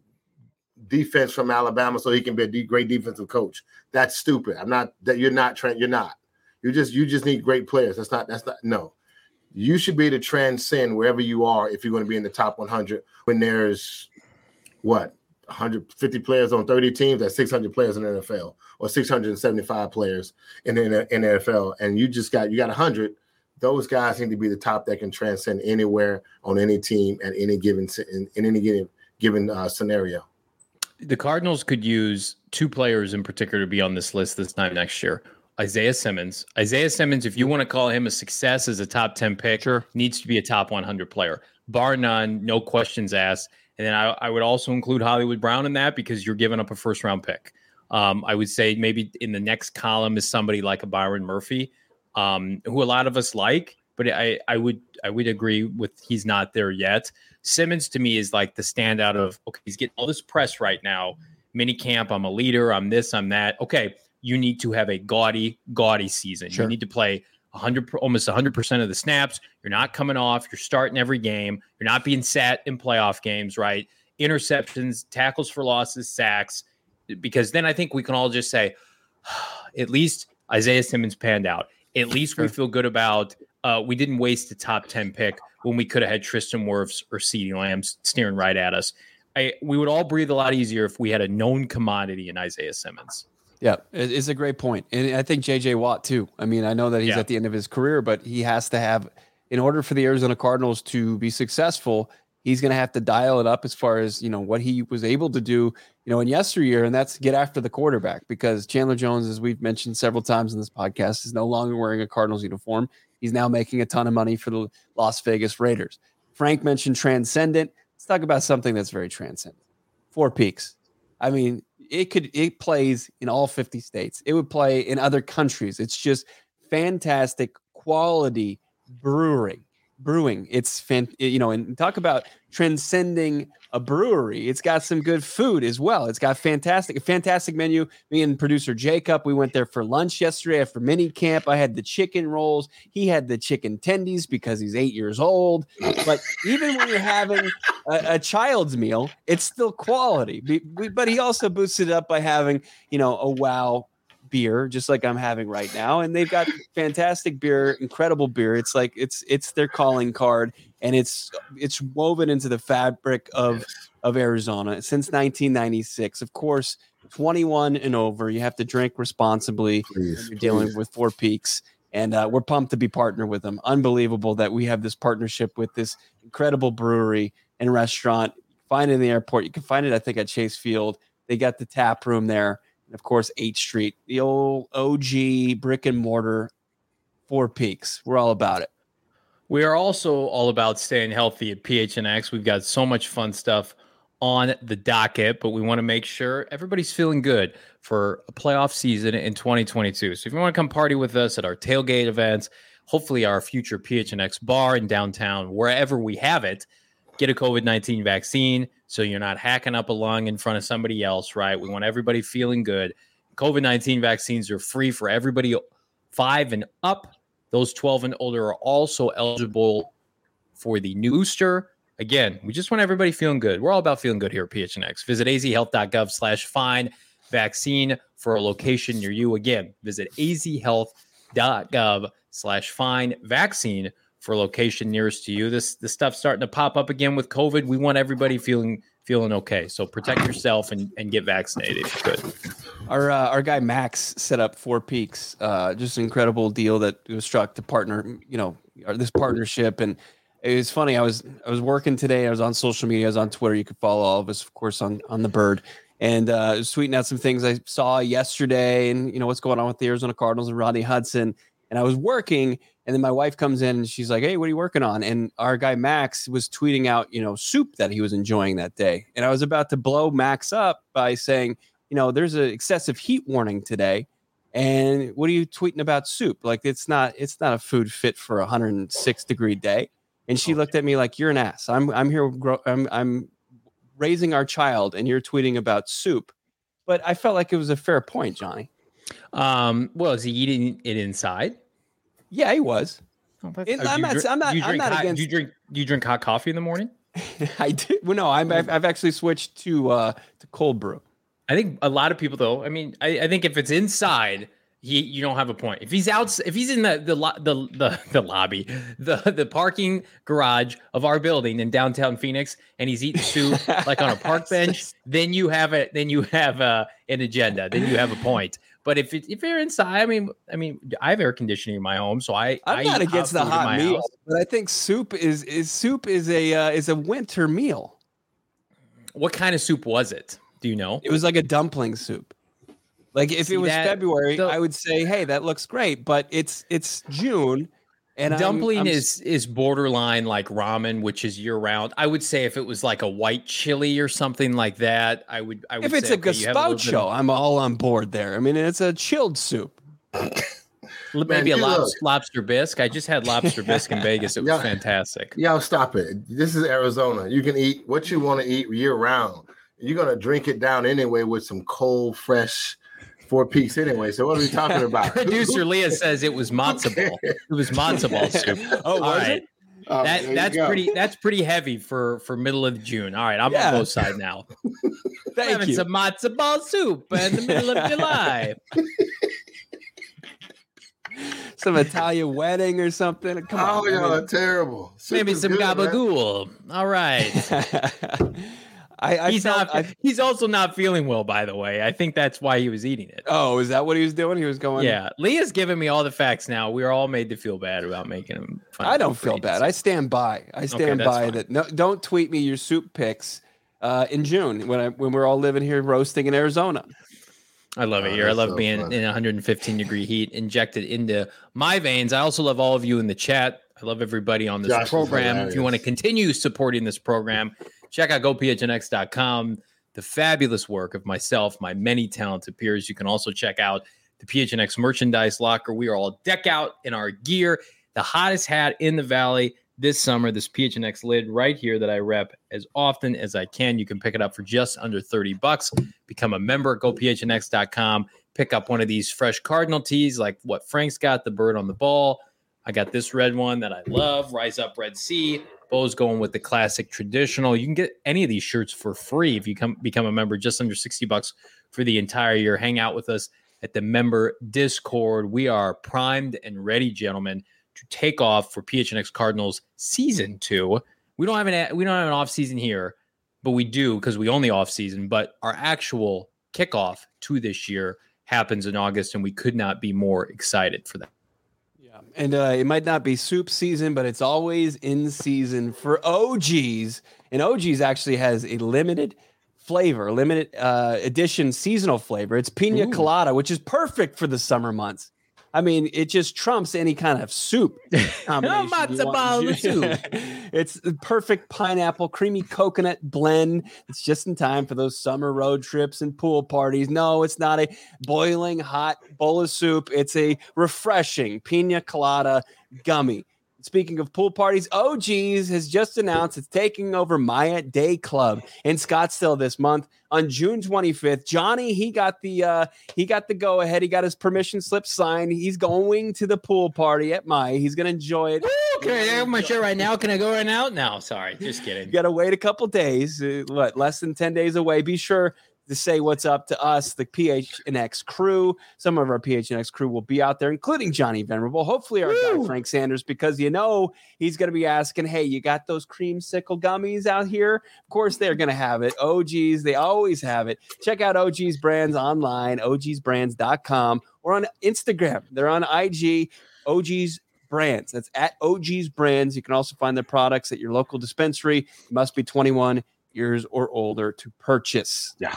defense from Alabama so he can be a de- great defensive coach. That's stupid. I'm not that you're not trying. You're not. You just you just need great players. That's not. That's not. No. You should be able to transcend wherever you are if you're going to be in the top one hundred. When there's what one hundred fifty players on thirty teams, that's six hundred players in the N F L, or six hundred seventy-five players in the, in the N F L, and you just got you got one hundred. Those guys need to be the top that can transcend anywhere on any team at any given in, in any given given uh, scenario. The Cardinals could use two players in particular to be on this list this time next year. Isaiah Simmons. Isaiah Simmons, if you want to call him a success as a top ten pick, sure, needs to be a top one hundred player. Bar none, no questions asked. And then I, I would also include Hollywood Brown in that because you're giving up a first-round pick. Um, I would say maybe in the next column is somebody like a Byron Murphy, um, who a lot of us like, but I, I would I would agree with he's not there yet. Simmons to me is like the standout of, okay, he's getting all this press right now. Mini camp, I'm a leader, I'm this, I'm that. Okay, you need to have a gaudy, gaudy season. Sure. You need to play one hundred, almost one hundred percent of the snaps. You're not coming off. You're starting every game. You're not being sat in playoff games, right? Interceptions, tackles for losses, sacks. Because then I think we can all just say, at least Isaiah Simmons panned out. At least sure. we feel good about uh, we didn't waste a top ten pick when we could have had Tristan Wirfs or CeeDee Lamb staring right at us. I, we would all breathe a lot easier if we had a known commodity in Isaiah Simmons. Yeah, it's a great point. And I think J J Watt, too. I mean, I know that he's yeah. at the end of his career, but he has to have, in order for the Arizona Cardinals to be successful, he's going to have to dial it up as far as, you know, what he was able to do, you know, in yesteryear, and that's get after the quarterback, because Chandler Jones, as we've mentioned several times in this podcast, is no longer wearing a Cardinals uniform. He's now making a ton of money for the Las Vegas Raiders. Frank mentioned transcendent. Let's talk about something that's very transcendent. Four Peaks. I mean, it could it plays in all fifty states. It would play in other countries. It's just fantastic quality brewing. Brewing. It's fan, you know, and talk about transcending a brewery. It's got some good food as well. It's got fantastic, a fantastic menu. Me and producer Jacob, we went there for lunch yesterday after mini camp. I had the chicken rolls. He had the chicken tendies because he's eight years old. But even when you're having a, a child's meal, it's still quality. But he also boosted it up by having, you know, a wow beer, just like I'm having right now. And they've got fantastic beer, incredible beer. It's like it's it's their calling card, and it's it's woven into the fabric of of Arizona since nineteen ninety-six. Of course, twenty-one and over. You have to drink responsibly please, when you're dealing please. with Four Peaks. And uh, we're pumped to be partnered with them. Unbelievable that we have this partnership with this incredible brewery and restaurant. Find it in the airport. You can find it, I think, at Chase Field. They got the tap room there. And of course, eighth Street, the old O G brick and mortar, Four Peaks. We're all about it. We are also all about staying healthy at P H N X. We've got so much fun stuff on the docket, but we want to make sure everybody's feeling good for a playoff season in twenty twenty-two. So if you want to come party with us at our tailgate events, hopefully our future P H N X bar in downtown, wherever we have it, get a COVID nineteen vaccine so you're not hacking up a lung in front of somebody else, right? We want everybody feeling good. COVID nineteen vaccines are free for everybody five and up. Those twelve and older are also eligible for the new booster. Again, we just want everybody feeling good. We're all about feeling good here at P H N X. Visit azhealth.gov slash find vaccine for a location near you. Again, visit azhealth.gov slash find vaccine for a location nearest to you. This this stuff's starting to pop up again with COVID. We want everybody feeling feeling okay. So protect yourself and, and get vaccinated if you could. Our uh, our guy Max set up Four Peaks. Uh, just an incredible deal that was struck to partner, you know, this partnership. And it was funny. I was I was working today. I was on social media. I was on Twitter. You could follow all of us, of course, on on the Bird. And uh, I was tweeting out some things I saw yesterday, and you know what's going on with the Arizona Cardinals and Rodney Hudson. And I was working, and then my wife comes in and she's like, "Hey, what are you working on?" And our guy Max was tweeting out, you know, soup that he was enjoying that day. And I was about to blow Max up by saying, you know, there's an excessive heat warning today, And what are you tweeting about soup? Like it's not it's not a food fit for a one hundred six degree day. And she looked at me like, you're an ass. I'm I'm here grow, I'm I'm raising our child and you're tweeting about soup. But I felt like it was a fair point, Johnny. Um, well, is he eating it inside? Yeah, he was. Oh, it, I'm, not, drink, I'm not. I'm not hot, against. Do you drink? Do you drink hot coffee in the morning? I did. Well, no, I'm, I've, I've actually switched to uh, to cold brew. I think a lot of people, though. I mean, I, I think if it's inside, he you don't have a point. If he's out, if he's in the the the the, the lobby, the the parking garage of our building in downtown Phoenix, and he's eating soup like on a park bench, then you have it. Then you have uh, an agenda. Then you have a point. But if it, if you're inside, I mean, I mean, I have air conditioning in my home, so I I'm I not against the hot meal, house. but I think soup is is soup is a uh, is a winter meal. What kind of soup was it? Do you know? It was like a dumpling soup. Like if See it was that, February, the, I would say, hey, that looks great. But it's it's June. And dumpling I'm, I'm, is is borderline like ramen, which is year round. I would say if it was like a white chili or something like that, I would. I would if it's say, a okay, gazpacho, of, I'm all on board there. I mean, it's a chilled soup. Maybe Man, a lobster, lobster bisque. I just had lobster bisque in Vegas. It was yo, fantastic. Yo, stop it. This is Arizona. You can eat what you want to eat year round. You're gonna drink it down anyway with some cold, fresh Four Peaks anyway. So what are we talking about? Producer Leah says it was matzo ball. It was matzo ball soup. Oh, all right. It? Oh, that that's pretty that's pretty heavy for for middle of June. All right, I'm yeah. on both sides now. Thank having you. Some matzo ball soup in the middle of July. Some Italian wedding or something. Come on. Oh, y'all are terrible. Soup Maybe some good, gabagool. Man. All right. I, I he's felt, not. I, he's also not feeling well, by the way. I think that's why he was eating it. Oh, is that what he was doing? He was going. Yeah, Leah's giving me all the facts now. We are all made to feel bad about making him. Fun I don't feel bad. I stand by. I stand okay, by fine. that. No, don't tweet me your soup pics uh, in June when I when we're all living here roasting in Arizona. I love it oh, here. I love so being fun. in one hundred fifteen degree heat injected into my veins. I also love all of you in the chat. I love everybody on this Josh program. If you want to continue supporting this program, check out go p h n x dot com, the fabulous work of myself, my many talented peers. You can also check out the P H N X merchandise locker. We are all deck out in our gear. The hottest hat in the Valley this summer, this P H N X lid right here that I rep as often as I can. You can pick it up for just under thirty bucks. Become a member at go p h n x dot com. Pick up one of these fresh Cardinal tees like what Frank's got, the bird on the ball. I got this red one that I love, Rise Up Red Sea. Bo's going with the classic traditional. You can get any of these shirts for free if you come become a member, just under sixty bucks for the entire year. Hang out with us at the member Discord. We are primed and ready, gentlemen, to take off for P H N X Cardinals season two. We don't have an we don't have an off season here, but we do because we own the off season. But our actual kickoff to this year happens in August, and we could not be more excited for that. And uh, it might not be soup season, but it's always in season for O G's. And O G's actually has a limited flavor, limited uh, edition seasonal flavor. It's pina Ooh. colada, which is perfect for the summer months. I mean, it just trumps any kind of soup combination. Matzo ball soup. It's the perfect pineapple, creamy coconut blend. It's just in time for those summer road trips and pool parties. No, it's not a boiling hot bowl of soup. It's a refreshing pina colada gummy. Speaking of pool parties, O G's has just announced it's taking over Maya Day Club in Scottsdale this month on June twenty-fifth. Johnny, he got the uh, he got the go ahead. He got his permission slip signed. He's going to the pool party at Maya. He's going to enjoy it. Woo, can I have my shirt right now? Can I go right now? No, sorry, just kidding. You got to wait a couple days. Uh, what, less than ten days away? Be sure to say what's up to us, the P H N X crew. Some of our P H N X crew will be out there, including Johnny Venerable. Hopefully our Woo! guy Frank Sanders, because you know he's going to be asking, hey, you got those creamsicle gummies out here? Of course they're going to have it. O G's, they always have it. Check out O G's Brands online, o g's brands dot com, or on Instagram. They're on I G, O G's Brands. That's at O G's Brands. You can also find their products at your local dispensary. You must be twenty-one years or older to purchase. Yeah.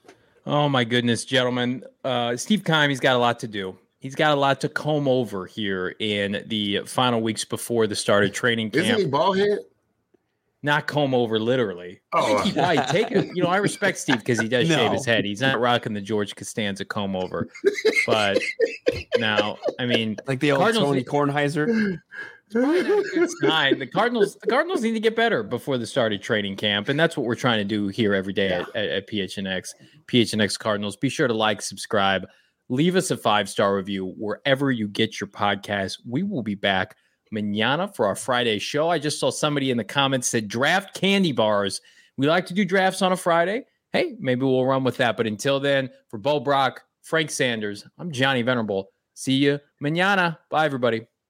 Oh my goodness, gentlemen. Uh, Steve Keim, he's got a lot to do. He's got a lot to comb over here in the final weeks before the start of training camp. Isn't he bald head? not comb over literally. Oh. I think he probably take it. You know, I respect Steve because he does No. shave his head. He's not rocking the George Costanza comb over. But now, I mean, Like the old Cardinals Tony need- Kornheiser. probably not a good sign. The Cardinals, the Cardinals need to get better before the start of training camp, and that's what we're trying to do here every day Yeah. at, at, at P H N X. P H N X Cardinals. Be sure to like, subscribe, leave us a five star review wherever you get your podcast. We will be back mañana for our Friday show. I just saw somebody in the comments said draft candy bars. We like to do drafts on a Friday. Hey, maybe we'll run with that. But until then, for Bo Brock, Frank Sanders, I'm Johnny Venerable. See you mañana. Bye, everybody.